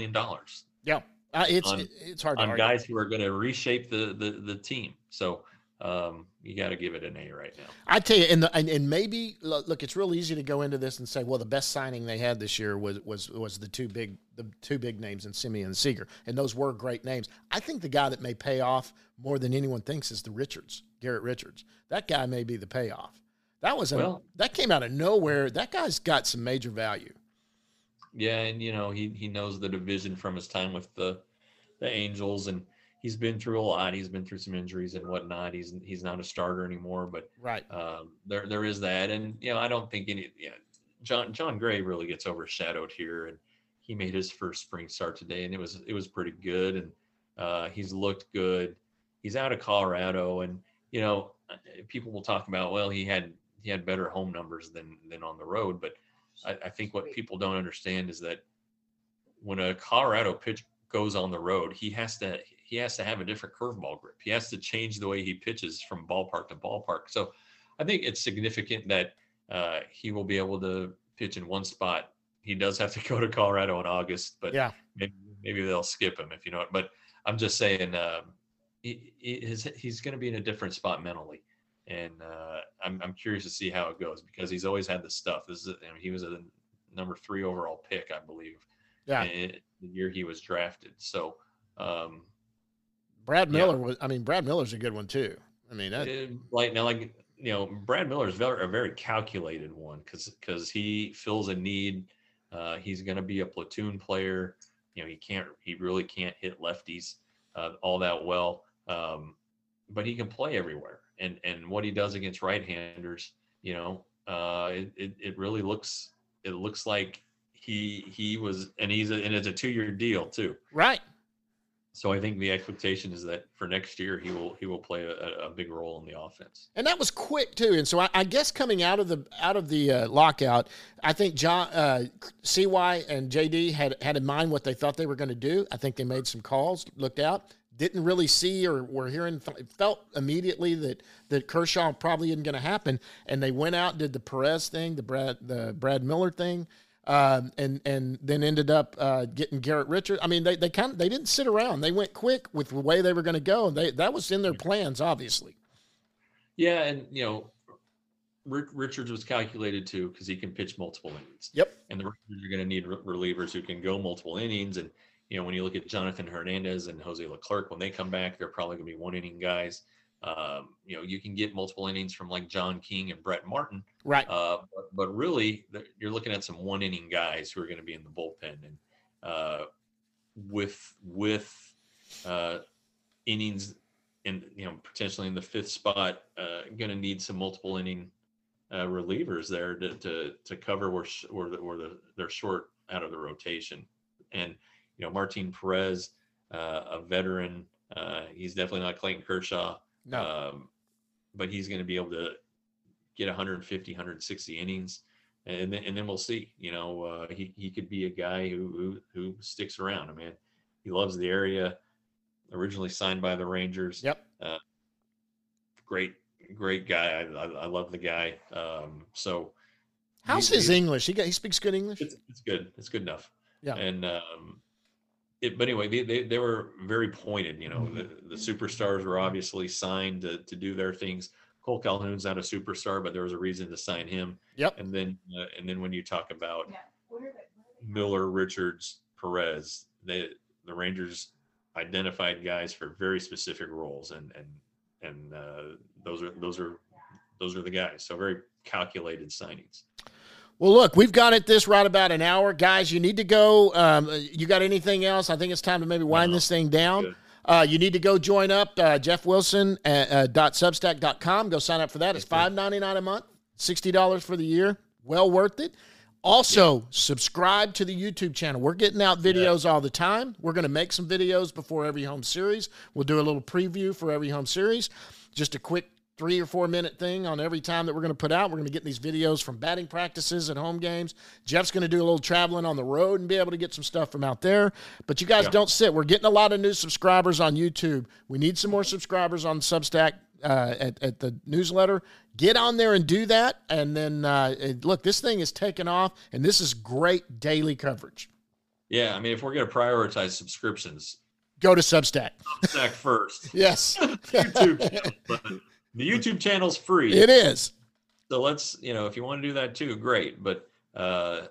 Yeah. It's hard to on argue. guys who are going to reshape the team. So you got to give it an A right now. I tell you, and maybe look, it's real easy to go into this and say, well, the best signing they had this year was the two big names in Simeon and Seager, and those were great names. I think the guy that may pay off more than anyone thinks is Garrett Richards. That guy may be the payoff. That came out of nowhere. That guy's got some major value. Yeah, and he knows the division from his time with the Angels, and he's been through a lot. He's been through some injuries and whatnot. He's not a starter anymore, but Right. There is that, and I don't think John Gray really gets overshadowed here, and he made his first spring start today, and it was pretty good, and he's looked good. He's out of Colorado, and people will talk about, well, he had better home numbers than on the road, but I think what people don't understand is that when a Colorado pitch goes on the road, he has to have a different curveball grip. He has to change the way he pitches from ballpark to ballpark. So I think it's significant that he will be able to pitch in one spot. He does have to go to Colorado in August, but Yeah. maybe they'll skip him, if you know it. But I'm just saying he's going to be in a different spot mentally. And I'm curious to see how it goes, because he's always had the stuff. He was a number 3 overall pick, I believe. Yeah. The year he was drafted. So Brad Miller Brad Miller's a good one too. I mean, Brad Miller is a very calculated one because he fills a need. He's going to be a platoon player. He really can't hit lefties all that well. But he can play everywhere. And what he does against right-handers, it really looks like he was, and it's a 2-year deal too. Right. So I think the expectation is that for next year he will play a big role in the offense. And that was quick too. And so I guess coming out of the lockout, I think John CY and JD had in mind what they thought they were going to do. I think they made some calls, looked out, didn't really see or were hearing, felt immediately that Kershaw probably isn't going to happen, and they went out, did the Perez thing, the Brad Miller thing. And then ended up getting Garrett Richards. I mean, they didn't sit around. They went quick with the way they were going to go. That was in their plans, obviously. Yeah, and Richards was calculated too because he can pitch multiple innings. Yep. And the Rangers are going to need relievers who can go multiple innings. And when you look at Jonathan Hernandez and Jose Leclerc, when they come back, they're probably going to be 1-inning guys. You can get multiple innings from like John King and Brett Martin. Right. But really, you're looking at some 1-inning guys who are going to be in the bullpen, and with innings, and potentially in the 5th spot, going to need some multiple inning relievers there to cover where they're short out of the rotation. And Martin Perez, a veteran, he's definitely not Clayton Kershaw. No. But he's going to be able to get 150, 160 innings, and then we'll see. He could be a guy who sticks around. I mean, he loves the area. Originally signed by the Rangers. Yep. Great great guy. I love the guy. So how's his English? He speaks good English. It's good. It's good enough. Yeah. And but anyway, they were very pointed. You know, the superstars were obviously signed to do their things. Cole Calhoun's not a superstar, but there was a reason to sign him. Yep. And then when you talk about Miller, Richards, Perez, the Rangers identified guys for very specific roles, and those are the guys. So very calculated signings. Well, look, we've got it this right about an hour, guys. You need to go. You got anything else? I think it's time to maybe wind this thing down. You need to go join up jeffwilson.substack.com. Go sign up for that. It's $5.99 a month, $60 for the year. Well worth it. Also, subscribe to the YouTube channel. We're getting out videos all the time. We're going to make some videos before every home series. We'll do a little preview for every home series. Just a quick 3 or 4 minute thing on every time that we're going to put out. We're going to get these videos from batting practices at home games. Jeff's going to do a little traveling on the road and be able to get some stuff from out there. But you guys don't sit. We're getting a lot of new subscribers on YouTube. We need some more subscribers on Substack at the newsletter. Get on there and do that. And then, look, this thing is taking off, and this is great daily coverage. Yeah, I mean, if we're going to prioritize subscriptions, go to Substack. Substack first. Yes. YouTube channel, but the YouTube channel's free. It is. So let's, if you want to do that too, great. But the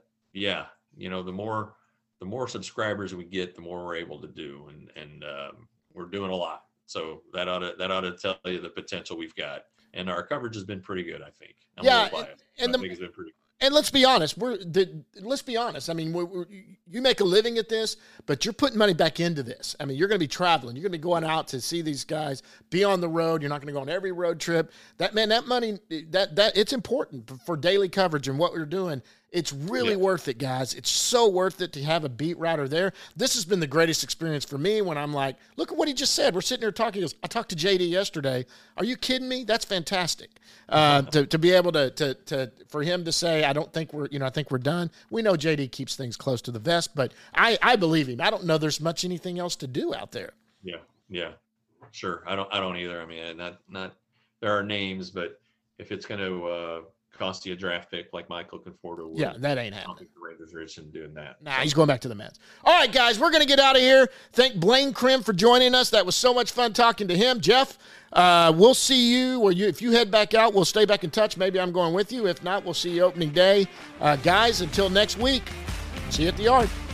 more subscribers we get, the more we're able to do, and we're doing a lot. So that ought to tell you the potential we've got, and our coverage has been pretty good, I think. I think it's been pretty good. And let's be honest. Let's be honest. I mean, you make a living at this, but you're putting money back into this. I mean, you're going to be traveling. You're going to be going out to see these guys, be on the road. You're not going to go on every road trip. That money, that it's important for daily coverage and what we're doing. It's really worth it, guys. It's so worth it to have a beat writer there. This has been the greatest experience for me when I'm like, look at what he just said. We're sitting here talking. He goes, I talked to JD yesterday. Are you kidding me? That's fantastic. To be able to for him to say, I don't think I think we're done. We know JD keeps things close to the vest, but I believe him. I don't know there's much anything else to do out there. Yeah, sure. I don't either. I mean, not there are names, but if it's going to cost you a draft pick like Michael Conforto would, that ain't happening. I don't think the Raiders are interested in doing that. Nah, he's going back to the Mets. All right, guys, we're going to get out of here. Thank Blaine Crim for joining us. That was so much fun talking to him. Jeff, we'll see you, if you head back out, we'll stay back in touch. Maybe I'm going with you. If not, we'll see you opening day. Guys, until next week, see you at the yard.